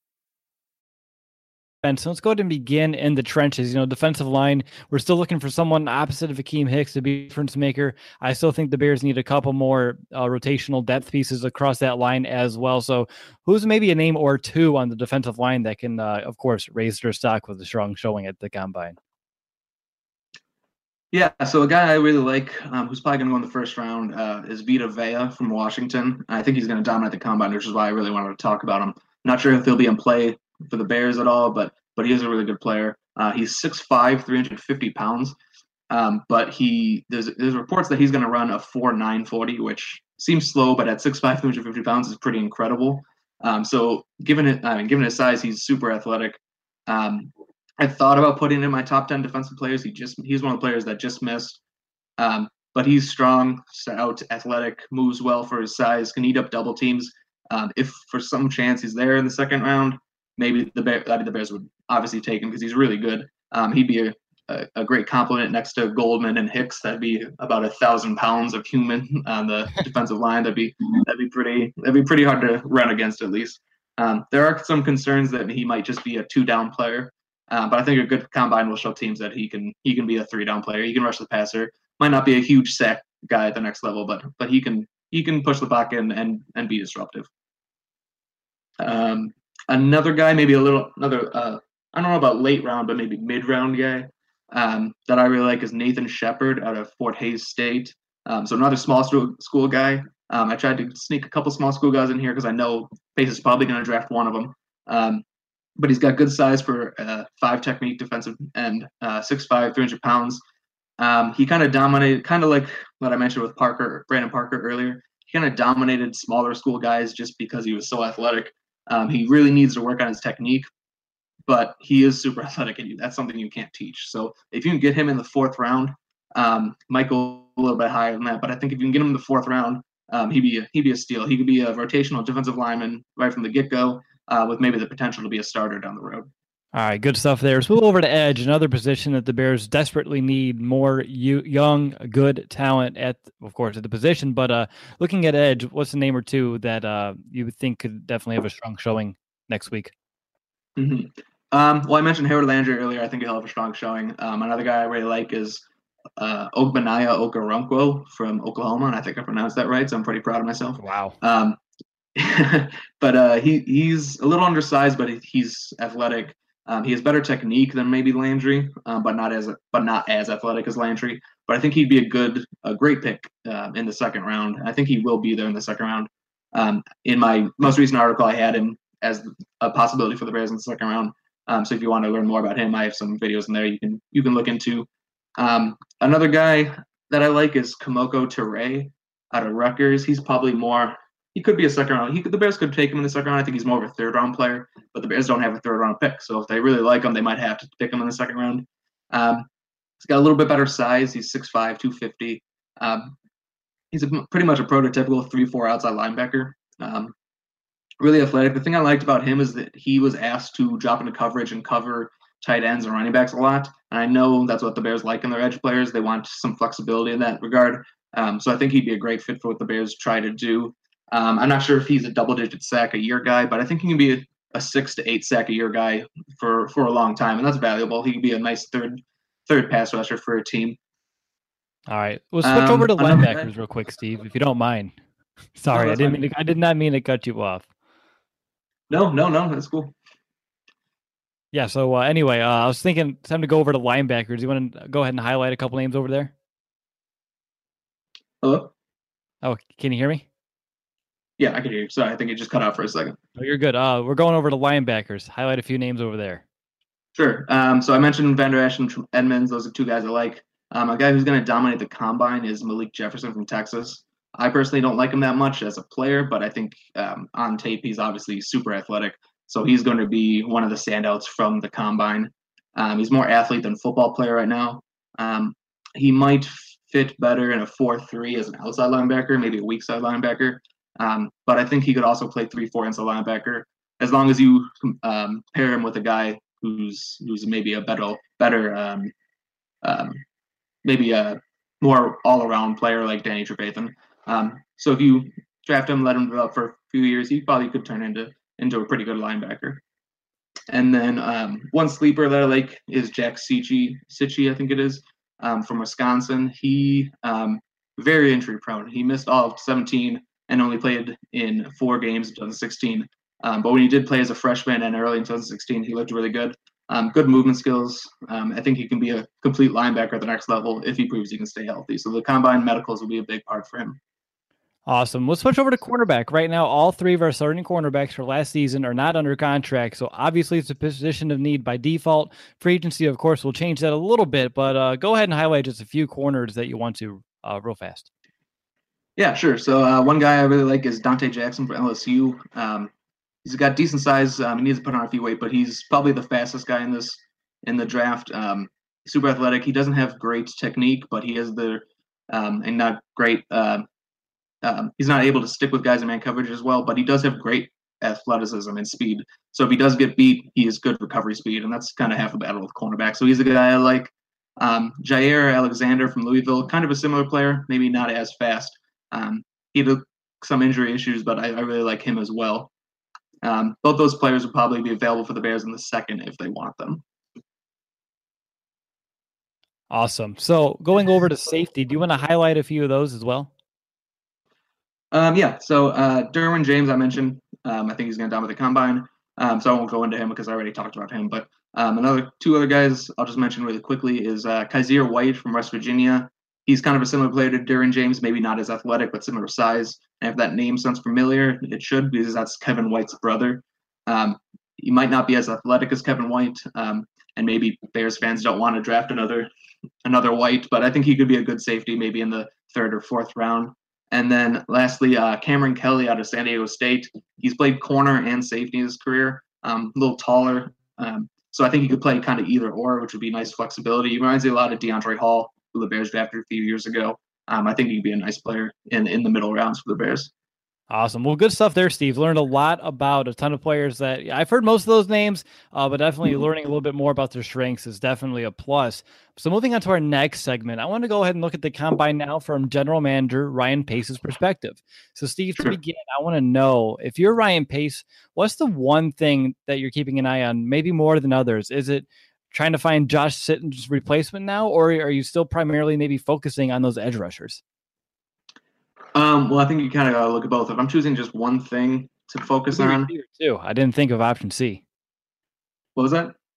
And so let's go ahead and begin in the trenches. You know, defensive line, we're still looking for someone opposite of Akeem Hicks to be a difference maker. I still think the Bears need a couple more uh, rotational depth pieces across that line as well. So who's maybe a name or two on the defensive line that can, uh, of course, raise their stock with a strong showing at the combine? Yeah, so a guy I really like, um, who's probably going to go in the first round, uh, is Vita Vea from Washington. I think he's going to dominate the combine, which is why I really wanted to talk about him. Not sure if he'll be in play for the Bears at all, but but he is a really good player. Uh, he's six five, three hundred fifty pounds, um, but he there's there's reports that he's going to run a four nine forty, which seems slow, but at six five, three hundred fifty pounds is pretty incredible. Um, so given it, I mean, given his size, he's super athletic. Um, I thought about putting him in my top ten defensive players. He just he's one of the players that just missed, um, but he's strong, stout, athletic, moves well for his size, can eat up double teams. Um, if for some chance he's there in the second round, maybe the Bears, the Bears would obviously take him because he's really good. Um, he'd be a, a, a great complement next to Goldman and Hicks. That'd be about a thousand pounds of human on the defensive line. That'd be that'd be pretty that'd be pretty hard to run against at least. Um, there are some concerns that he might just be a two down player, uh, but I think a good combine will show teams that he can he can be a three down player. He can rush the passer. Might not be a huge sack guy at the next level, but but he can he can push the pocket and and, and be disruptive. Um, another guy, maybe a little another. Uh, I don't know about late round, but maybe mid round guy um, that I really like is Nathan Shepard out of Fort Hays State. Um, so another small school guy. Um, I tried to sneak a couple small school guys in here because I know Pace is probably going to draft one of them. Um, but he's got good size for uh, five technique defensive end, uh, six five, three hundred pounds. Um, he kind of dominated, kind of like what I mentioned with Parker, Brandon Parker earlier. He kind of dominated smaller school guys just because he was so athletic. Um, he really needs to work on his technique, but he is super athletic, and that's something you can't teach. So if you can get him in the fourth round, um, might go a little bit higher than that. But I think if you can get him in the fourth round, um, he'd be a, he'd be a steal. He could be a rotational defensive lineman right from the get-go, uh, with maybe the potential to be a starter down the road. All right, good stuff there. So move over to edge, another position that the Bears desperately need more you, young, good talent at, of course, at the position. But uh, looking at edge, what's the name or two that uh, you would think could definitely have a strong showing next week? Mm-hmm. Um, well, I mentioned Harold Landry earlier. I think he'll have a strong showing. Um, another guy I really like is uh, Ogbenaya Okoronkwo from Oklahoma, and I think I pronounced that right, so I'm pretty proud of myself. Wow. Um, but uh, he he's a little undersized, but he's athletic. Um, he has better technique than maybe Landry, um, but not as but not as athletic as Landry. But I think he'd be a good, a great pick uh, in the second round. I think he will be there in the second round. Um, in my most recent article, I had him as a possibility for the Bears in the second round. Um, so if you want to learn more about him, I have some videos in there you can you can look into. Um, another guy that I like is Kamoko Toure out of Rutgers. He's probably more. He could be a second round. He could, the Bears could take him in the second round. I think he's more of a third round player, but the Bears don't have a third round pick. So if they really like him, they might have to pick him in the second round. Um, he's got a little bit better size. He's six five, two fifty. Um, he's a, pretty much a prototypical three four outside linebacker. Um, really athletic. The thing I liked about him is that he was asked to drop into coverage and cover tight ends and running backs a lot. And I know that's what the Bears like in their edge players. They want some flexibility in that regard. Um, so I think he'd be a great fit for what the Bears try to do. Um, I'm not sure if he's a double-digit sack a year guy, but I think he can be a, a six to eight sack a year guy for, for a long time, and that's valuable. He can be a nice third third pass rusher for a team. All right, we'll switch um, over to linebackers guy. real quick, Steve, if you don't mind. Sorry, no, I didn't fine. mean to, I did not mean to cut you off. No, no, no, that's cool. Yeah. So uh, anyway, uh, I was thinking it's time to go over to linebackers. You want to go ahead and highlight a couple names over there? Hello? Oh, can you hear me? Yeah, I can hear you. Sorry, I think it just cut out for a second. Oh, you're good. Uh, we're going over to linebackers. Highlight a few names over there. Sure. Um, so I mentioned Van Der Esch and Edmonds. Those are two guys I like. Um, a guy who's going to dominate the combine is Malik Jefferson from Texas. I personally don't like him that much as a player, but I think um, on tape he's obviously super athletic. So he's going to be one of the standouts from the combine. Um, he's more athlete than football player right now. Um, he might fit better in a four three as an outside linebacker, maybe a weak side linebacker. Um, but I think he could also play three four inside linebacker as long as you um, pair him with a guy who's who's maybe a better better um, um, maybe a more all around player like Danny Trevathan. Um, so if you draft him, let him develop for a few years, he probably could turn into into a pretty good linebacker. And then um, one sleeper that I like is Jack Sitchi, Sitchi, I think it is, um, from Wisconsin. He um, very injury prone. He missed all of seventeen and only played in four games in twenty sixteen. Um, but when he did play as a freshman and early in twenty sixteen, he looked really good. Um, good movement skills. Um, I think he can be a complete linebacker at the next level if he proves he can stay healthy. So the combine medicals will be a big part for him. Awesome. Let's switch over to cornerback. Right now, all three of our starting cornerbacks for last season are not under contract, so obviously it's a position of need by default. Free agency, of course, will change that a little bit, but uh, go ahead and highlight just a few corners that you want to uh, real fast. Yeah, sure. So uh, one guy I really like is Dante Jackson from L S U. Um, he's got decent size. Um, he needs to put on a few weight, but he's probably the fastest guy in this in the draft. Um, super athletic. He doesn't have great technique, but he has the um, and not great. Uh, um, he's not able to stick with guys in man coverage as well, but he does have great athleticism and speed. So if he does get beat, he has good recovery speed, and that's kind of half the battle with cornerback. So he's a guy I like. Um, Jair Alexander from Louisville, kind of a similar player, maybe not as fast. Um, he had some injury issues, but I, I really like him as well. Um, both those players will probably be available for the Bears in the second if they want them. Awesome. So going over to safety, do you want to highlight a few of those as well? Um, yeah, so uh, Derwin James, I mentioned. Um, I think he's going to dominate the combine, um, so I won't go into him because I already talked about him. But um, another two other guys I'll just mention really quickly is uh, Kaiser White from West Virginia. He's kind of a similar player to Derwin James, maybe not as athletic, but similar size. And if that name sounds familiar, it should, because that's Kevin White's brother. Um, he might not be as athletic as Kevin White, um, and maybe Bears fans don't want to draft another another White, but I think he could be a good safety, maybe in the third or fourth round. And then lastly, uh, Cameron Kelly out of San Diego State. He's played corner and safety in his career, um, a little taller. Um, so I think he could play kind of either or, which would be nice flexibility. He reminds me a lot of DeAndre Hall, who the Bears drafted a few years ago. Um, I think he'd be a nice player in, in the middle rounds for the Bears. Awesome. Well, good stuff there, Steve. Learned a lot about a ton of players that I've heard most of those names, uh, but definitely learning a little bit more about their strengths is definitely a plus. So moving on to our next segment, I want to go ahead and look at the combine now from general manager Ryan Pace's perspective. So Steve, to Sure. begin, I want to know, if you're Ryan Pace, what's the one thing that you're keeping an eye on, maybe more than others? Is it trying to find Josh Sitton's replacement now, or are you still primarily maybe focusing on those edge rushers? Um, well, I think you kind of got to look at both. If I'm choosing just one thing to focus on. Too. I didn't think of option C. What was that?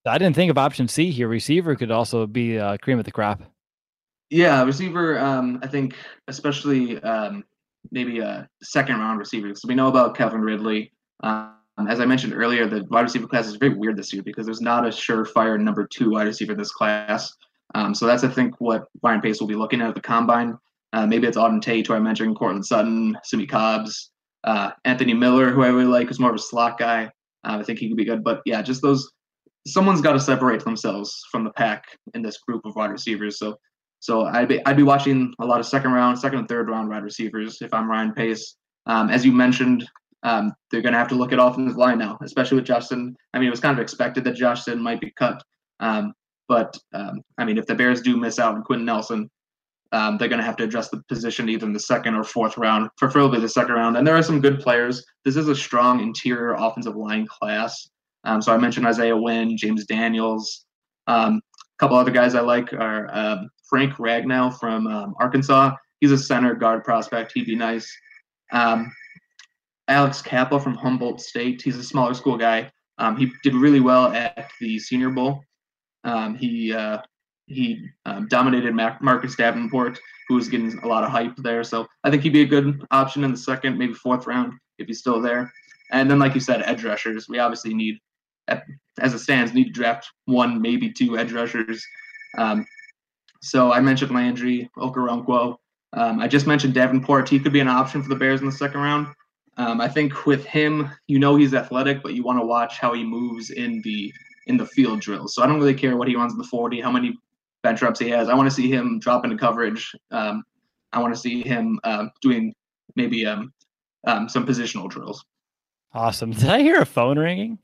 I didn't think of option C here. Receiver could also be uh, cream of the crop. Yeah, receiver. Um, I think especially um, maybe a second round receiver. So we know about Kevin Ridley. Um, as I mentioned earlier, the wide receiver class is very weird this year because there's not a surefire number two wide receiver in this class. Um, so that's I think what Ryan Pace will be looking at at the combine. Uh, maybe it's Auden Tate, who I mentioned, Cortland Sutton, Simmie Cobbs, uh, Anthony Miller, who I really like, who's more of a slot guy. Uh, I think he could be good. But yeah, just those. Someone's got to separate themselves from the pack in this group of wide receivers. So, so I'd be I'd be watching a lot of second round, second and third round wide receivers if I'm Ryan Pace. Um, as you mentioned, um, they're going to have to look at offensive line now, especially with Justin. I mean, it was kind of expected that Justin might be cut, um, but um, I mean, if the Bears do miss out on Quentin Nelson, um, they're going to have to adjust the position either in the second or fourth round, preferably the second round. And there are some good players. This is a strong interior offensive line class. Um, so I mentioned Isaiah Wynn, James Daniels. Um, a couple other guys I like are um, Frank Ragnow from um, Arkansas. He's a center guard prospect. He'd be nice. Um, Alex Kappa from Humboldt State. He's a smaller school guy. Um, he did really well at the Senior Bowl. Um, he uh, he um, dominated Mac- Marcus Davenport, who was getting a lot of hype there. So I think he'd be a good option in the second, maybe fourth round if he's still there. And then, like you said, edge rushers. We obviously need, as it stands, need to draft one, maybe two edge rushers. Um, so I mentioned Landry, Okoronkwo. Um, I just mentioned Davenport. He could be an option for the Bears in the second round. Um, I think with him, you know he's athletic, but you want to watch how he moves in the in the field drills. So I don't really care what he runs in the forty, how many bench reps he has. I want to see him drop into coverage. Um, I want to see him uh, doing maybe um, um, some positional drills. Awesome. Did I hear a phone ringing?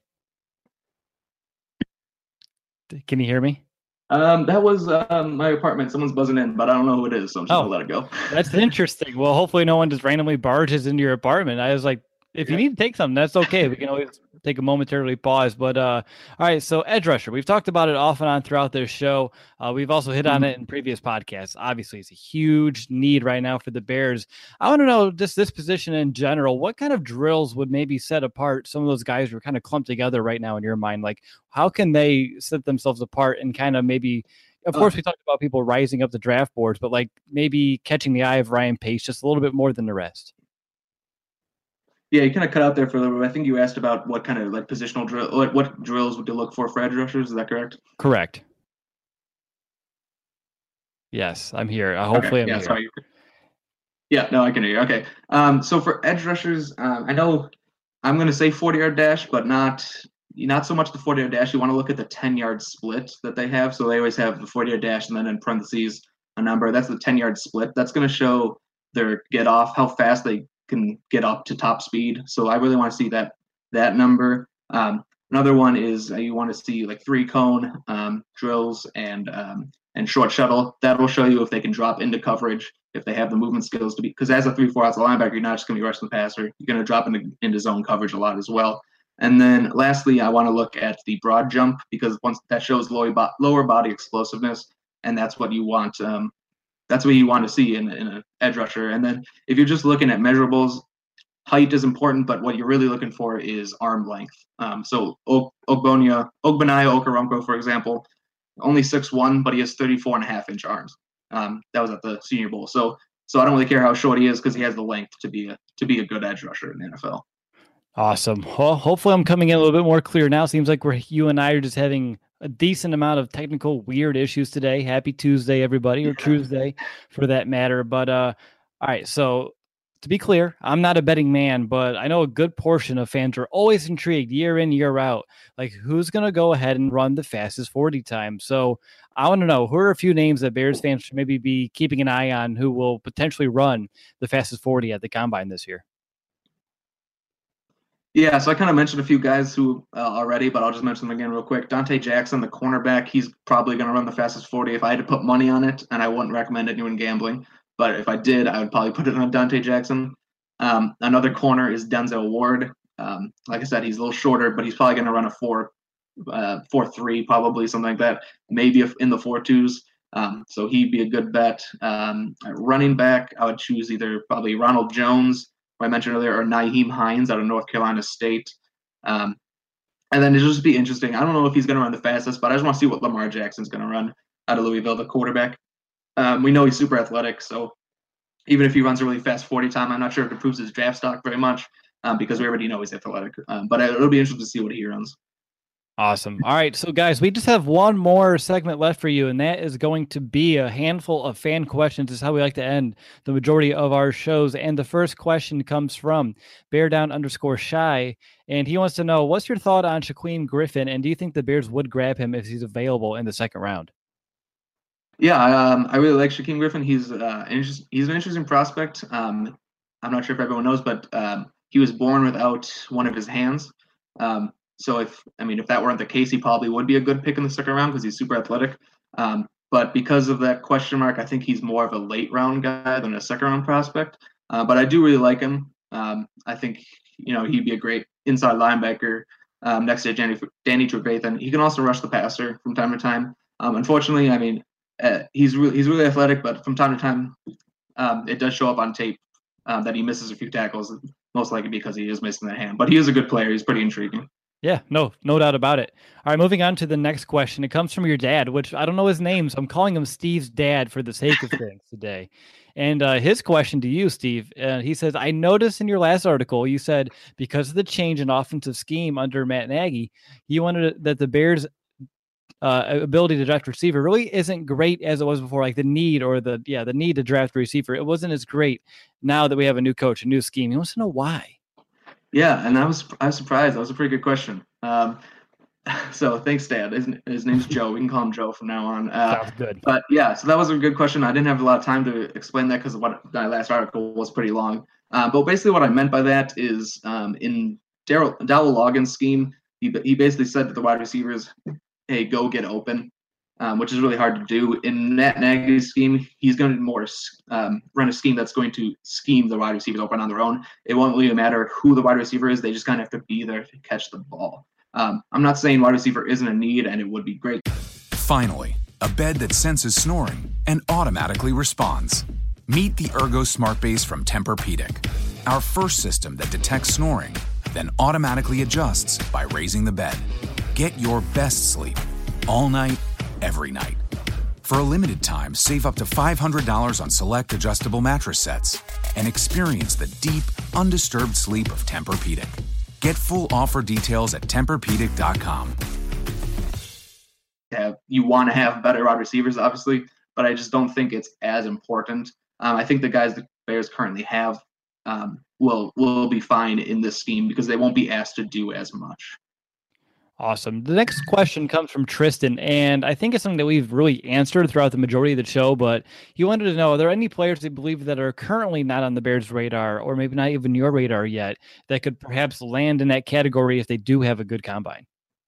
Can you hear me? Um, that was um, my apartment. Someone's buzzing in, but I don't know who it is, so I'm just oh, gonna let it go. That's interesting. Well, hopefully no one just randomly barges into your apartment. I was like, if yeah. you need to take something, that's okay. We can always take a momentarily pause. But uh, all right, so edge rusher. We've talked about it off and on throughout this show. Uh, we've also hit on it in previous podcasts. Obviously, it's a huge need right now for the Bears. I want to know just this position in general. What kind of drills would maybe set apart some of those guys who are kind of clumped together right now in your mind? Like, how can they set themselves apart and kind of maybe – of course, we talked about people rising up the draft boards, but like maybe catching the eye of Ryan Pace just a little bit more than the rest. Yeah, you kind of cut out there for a little bit. I think you asked about what kind of like positional drill, what, what drills would you look for for edge rushers? Is that correct? Correct. Yes, I'm here. Uh, hopefully, okay. I'm yeah, here. Sorry. Yeah, no, I can hear you. Okay. Um, so for edge rushers, um, I know I'm going to say forty-yard dash, but not not so much the forty-yard dash. You want to look at the ten-yard split that they have. So they always have the forty-yard dash and then in parentheses a number. That's the ten-yard split. That's going to show their get off, how fast they can get up to top speed. So I really want to see that that number. Um, another one is uh, you want to see like three cone um, drills and um, and short shuttle. That will show you if they can drop into coverage, if they have the movement skills to be. Because as a three four outside linebacker, you're not just going to be rushing the passer. You're going to drop into into zone coverage a lot as well. And then lastly, I want to look at the broad jump because once that shows lower bo- lower body explosiveness, and that's what you want. Um, That's what you want to see in, in an edge rusher. And then if you're just looking at measurables, height is important, but what you're really looking for is arm length. Um, so Ogbonia, Ogbonnia Okoronkwo, for example, only six one, but he has thirty-four and a half inch arms. Um, that was at the Senior Bowl. So so I don't really care how short he is because he has the length to be a to be a good edge rusher in the N F L. Awesome. Well, hopefully I'm coming in a little bit more clear now. Seems like we're you and I are just having a decent amount of technical weird issues today. Happy Tuesday, everybody, or Tuesday for that matter. But uh, all right, so to be clear, I'm not a betting man, but I know a good portion of fans are always intrigued year in, year out, like who's going to go ahead and run the fastest forty time. So I want to know who are a few names that Bears fans should maybe be keeping an eye on who will potentially run the fastest forty at the Combine this year. Yeah, so I kind of mentioned a few guys who uh, already, but I'll just mention them again real quick. Dante Jackson, the cornerback, he's probably going to run the fastest forty if I had to put money on it, and I wouldn't recommend anyone gambling. But if I did, I would probably put it on Dante Jackson. Um, another corner is Denzel Ward. Um, like I said, he's a little shorter, but he's probably going to run a four, uh, four three, probably something like that. Maybe if in the four twos. Um, so he'd be a good bet. Um, running back, I would choose either probably Ronald Jones, who I mentioned earlier, or Nyheim Hines out of North Carolina State. Um, And then it'll just be interesting. I don't know if he's going to run the fastest, but I just want to see what Lamar Jackson's going to run out of Louisville, the quarterback. Um, we know he's super athletic, so even if he runs a really fast forty time, I'm not sure if it improves his draft stock very much um, because we already know he's athletic. Um, but it'll be interesting to see what he runs. Awesome. All right. So, guys, we just have one more segment left for you, and that is going to be a handful of fan questions. This is how we like to end the majority of our shows. And the first question comes from Bear Down underscore Shy, and he wants to know, what's your thought on Shaquem Griffin, and do you think the Bears would grab him if he's available in the second round? Yeah, um, I really like Shaquem Griffin. He's uh, interest, he's an interesting prospect. Um, I'm not sure if everyone knows, but um, he was born without one of his hands. Um, So if, I mean, if that weren't the case, he probably would be a good pick in the second round because he's super athletic. Um, but because of that question mark, I think he's more of a late round guy than a second round prospect. Uh, but I do really like him. Um, I think, you know, he'd be a great inside linebacker um, next to Danny, Danny Trevathan. He can also rush the passer from time to time. Um, unfortunately, I mean, uh, he's really, he's really athletic, but from time to time, um, it does show up on tape um, that he misses a few tackles, most likely because he is missing that hand. But he is a good player. He's pretty intriguing. Yeah, no, no doubt about it. All right, moving on to the next question. It comes from your dad, which I don't know his name, so I'm calling him Steve's dad for the sake of things today. And uh, his question to you, Steve, uh, he says, I noticed in your last article, you said because of the change in offensive scheme under Matt Nagy, you wanted that the Bears' uh, ability to draft receiver really isn't great as it was before, like the need or the, yeah, the need to draft a receiver. It wasn't as great now that we have a new coach, a new scheme. He wants to know why. Yeah, and I was I was surprised. That was a pretty good question. Um, so thanks, Dad. His, his name's Joe. We can call him Joe from now on. Uh, Sounds good. But yeah, so that was a good question. I didn't have a lot of time to explain that because what my last article was pretty long. Uh, but basically, what I meant by that is um, in Darryl Dowell Loggins' scheme, he he basically said to the wide receivers, "Hey, go get open." Um, which is really hard to do. In Matt Nagy's scheme, he's going to more um, run a scheme that's going to scheme the wide receivers open on their own. It won't really matter who the wide receiver is. They just kind of have to be there to catch the ball. Um, I'm not saying wide receiver isn't a need, and it would be great. Finally, a bed that senses snoring and automatically responds. Meet the Ergo Smart Base from Tempur-Pedic, our first system that detects snoring, then automatically adjusts by raising the bed. Get your best sleep all night, every night. For a limited time, save up to five hundred dollars on select adjustable mattress sets and experience the deep, undisturbed sleep of Tempur-Pedic. Get full offer details at Tempur Pedic dot com. Have, you want to have better wide receivers, obviously, but I just don't think it's as important. Um, I think the guys the Bears currently have um, will will be fine in this scheme because they won't be asked to do as much. Awesome. The next question comes from Tristan, and I think it's something that we've really answered throughout the majority of the show, but he wanted to know, are there any players you believe that are currently not on the Bears' radar, or maybe not even your radar yet, that could perhaps land in that category if they do have a good combine?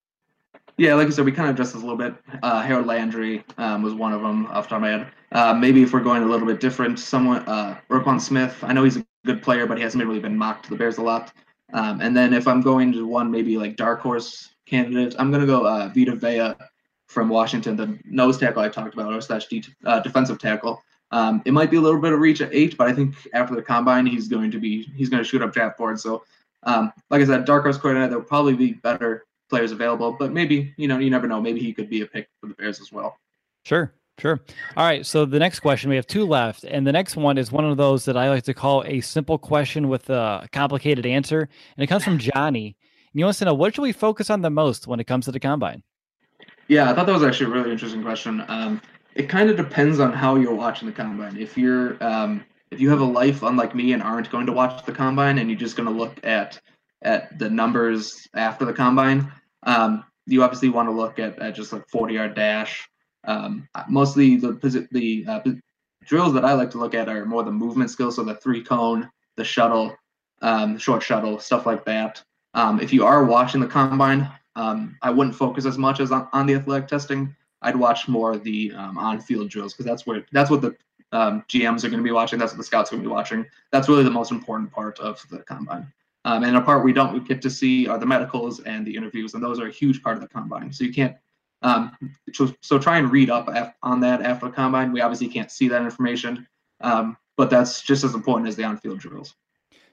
Yeah, like I said, we kind of addressed this a little bit. Uh, Harold Landry um, was one of them off the top of my head. Uh, maybe if we're going a little bit different, someone, uh, Roquan Smith, I know he's a good player, but he hasn't really been mocked to the Bears a lot. Um, and then if I'm going to one maybe like dark horse candidate, I'm going to go uh, Vita Vea from Washington, the nose tackle I talked about, or slash de- uh, defensive tackle. Um, it might be a little bit of reach at eight, but I think after the combine, he's going to be he's going to shoot up draft boards. So, um, like I said, dark horse coordinator, there will probably be better players available, but maybe, you know, you never know. Maybe he could be a pick for the Bears as well. Sure, sure. All right, so the next question, we have two left, and the next one is one of those that I like to call a simple question with a complicated answer, and it comes from Johnny. And he wants to know, what should we focus on the most when it comes to the combine? Yeah, I thought that was actually a really interesting question. Um, it kind of depends on how you're watching the combine. If you're um, if you have a life unlike me and aren't going to watch the combine, and you're just going to look at at the numbers after the combine, um, you obviously want to look at, at just like forty-yard dash. Um, mostly the the uh, drills that I like to look at are more the movement skills, so the three cone, the shuttle, um, short shuttle, stuff like that. Um, if you are watching the combine, um, I wouldn't focus as much as on, on the athletic testing. I'd watch more of the um, on-field drills because that's where that's what the um, G Ms are going to be watching. That's what the scouts are going to be watching. That's really the most important part of the combine. Um, and a part we don't get to see are the medicals and the interviews, and those are a huge part of the combine. So you can't. Um, so, so try and read up af- on that after the combine. We obviously can't see that information, um, but that's just as important as the on-field drills.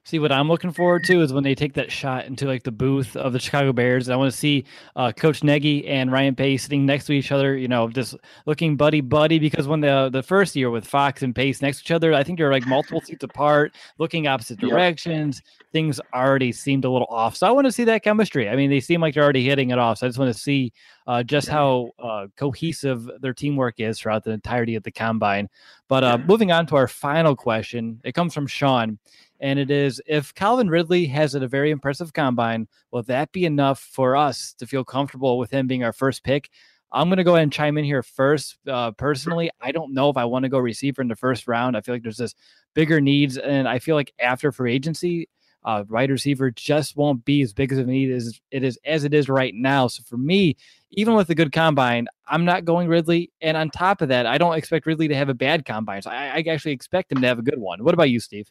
See, what I'm looking forward to is when they take that shot into like the booth of the Chicago Bears. And I want to see uh, Coach Nagy and Ryan Pace sitting next to each other, you know, just looking buddy buddy. Because when the the first year with Fox and Pace next to each other, I think they're like multiple seats apart, looking opposite directions. Yep. Things already seemed a little off. So I want to see that chemistry. I mean, they seem like they're already hitting it off. So I just want to see uh, just how uh, cohesive their teamwork is throughout the entirety of the combine. But uh, moving on to our final question, it comes from Sean. And it is, if Calvin Ridley has a very impressive combine, will that be enough for us to feel comfortable with him being our first pick? I'm going to go ahead and chime in here first. Uh, personally, I don't know if I want to go receiver in the first round. I feel like there's this bigger needs. And I feel like after free agency, uh, wide receiver just won't be as big as a need as it is as it is right now. So for me, even with a good combine, I'm not going Ridley. And on top of that, I don't expect Ridley to have a bad combine. So I, I actually expect him to have a good one. What about you, Steve?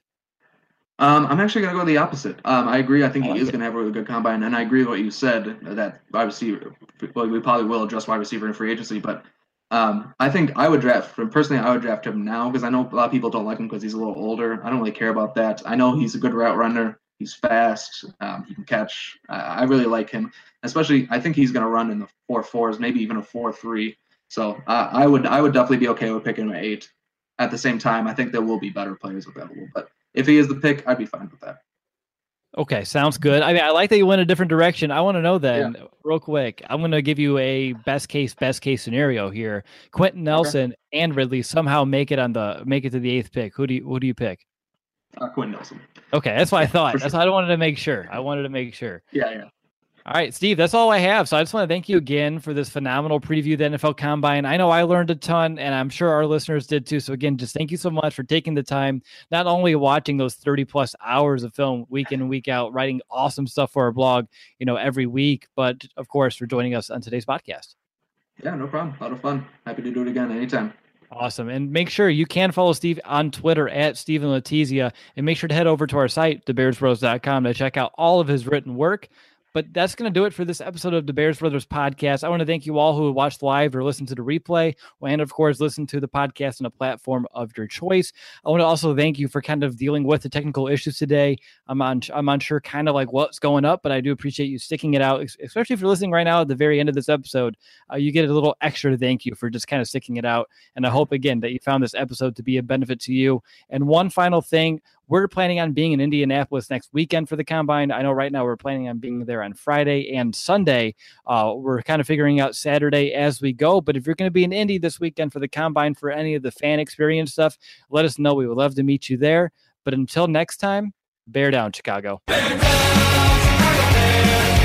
Um, I'm actually going to go the opposite. Um, I agree. I think I like he is going to have a really good combine, and I agree with what you said, that wide receiver, well, we probably will address wide receiver in free agency, but um, I think I would draft, personally, I would draft him now, because I know a lot of people don't like him because he's a little older. I don't really care about that. I know he's a good route runner. He's fast. Um, he can catch. I, I really like him, especially I think he's going to run in the four fours, maybe even a four three. So uh, I would I would definitely be okay with picking him at eight. At the same time, I think there will be better players available, but if he is the pick, I'd be fine with that. Okay, sounds good. I mean, I like that you went a different direction. I want to know then, yeah. real quick. I'm going to give you a best case, best case scenario here. Quentin Nelson okay. and Ridley somehow make it on the make it to the eighth pick. Who do you who do you pick? Uh, Quentin Nelson. Okay, that's what I thought. That's sure. what I wanted to make sure. I wanted to make sure. Yeah, yeah. All right, Steve, that's all I have. So I just want to thank you again for this phenomenal preview of the N F L Combine. I know I learned a ton, and I'm sure our listeners did too. So again, just thank you so much for taking the time, not only watching those thirty plus hours of film week in and week out, writing awesome stuff for our blog, you know, every week, but of course for joining us on today's podcast. Yeah, no problem. A lot of fun. Happy to do it again anytime. Awesome. And make sure you can follow Steve on Twitter at Steven Letizia, and make sure to head over to our site, the bears bros dot com, to check out all of his written work. But that's going to do it for this episode of the Bears Brothers podcast. I want to thank you all who watched live or listened to the replay, and of course, listen to the podcast on a platform of your choice. I want to also thank you for kind of dealing with the technical issues today. I'm on, I'm unsure kind of like what's going up, but I do appreciate you sticking it out, especially if you're listening right now at the very end of this episode. Uh, you get a little extra thank you for just kind of sticking it out. And I hope, again, that you found this episode to be a benefit to you. And one final thing, we're planning on being in Indianapolis next weekend for the Combine. I know right now we're planning on being there on Friday and Sunday. Uh, we're kind of figuring out Saturday as we go. But if you're going to be in Indy this weekend for the Combine for any of the fan experience stuff, let us know. We would love to meet you there. But until next time, bear down, Chicago. Bear down, Chicago Bears.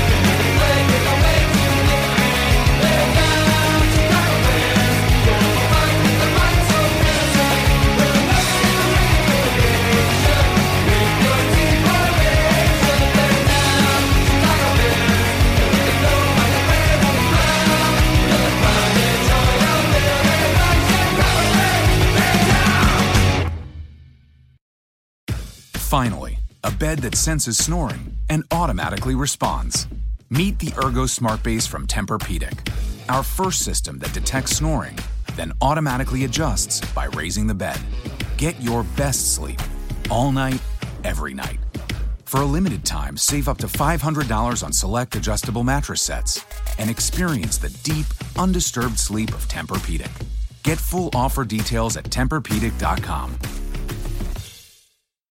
Finally, a bed that senses snoring and automatically responds. Meet the Ergo Smart Base from Tempur-Pedic, our first system that detects snoring, then automatically adjusts by raising the bed. Get your best sleep all night, every night. For a limited time, save up to five hundred dollars on select adjustable mattress sets and experience the deep, undisturbed sleep of Tempur-Pedic. Get full offer details at Tempur Pedic dot com.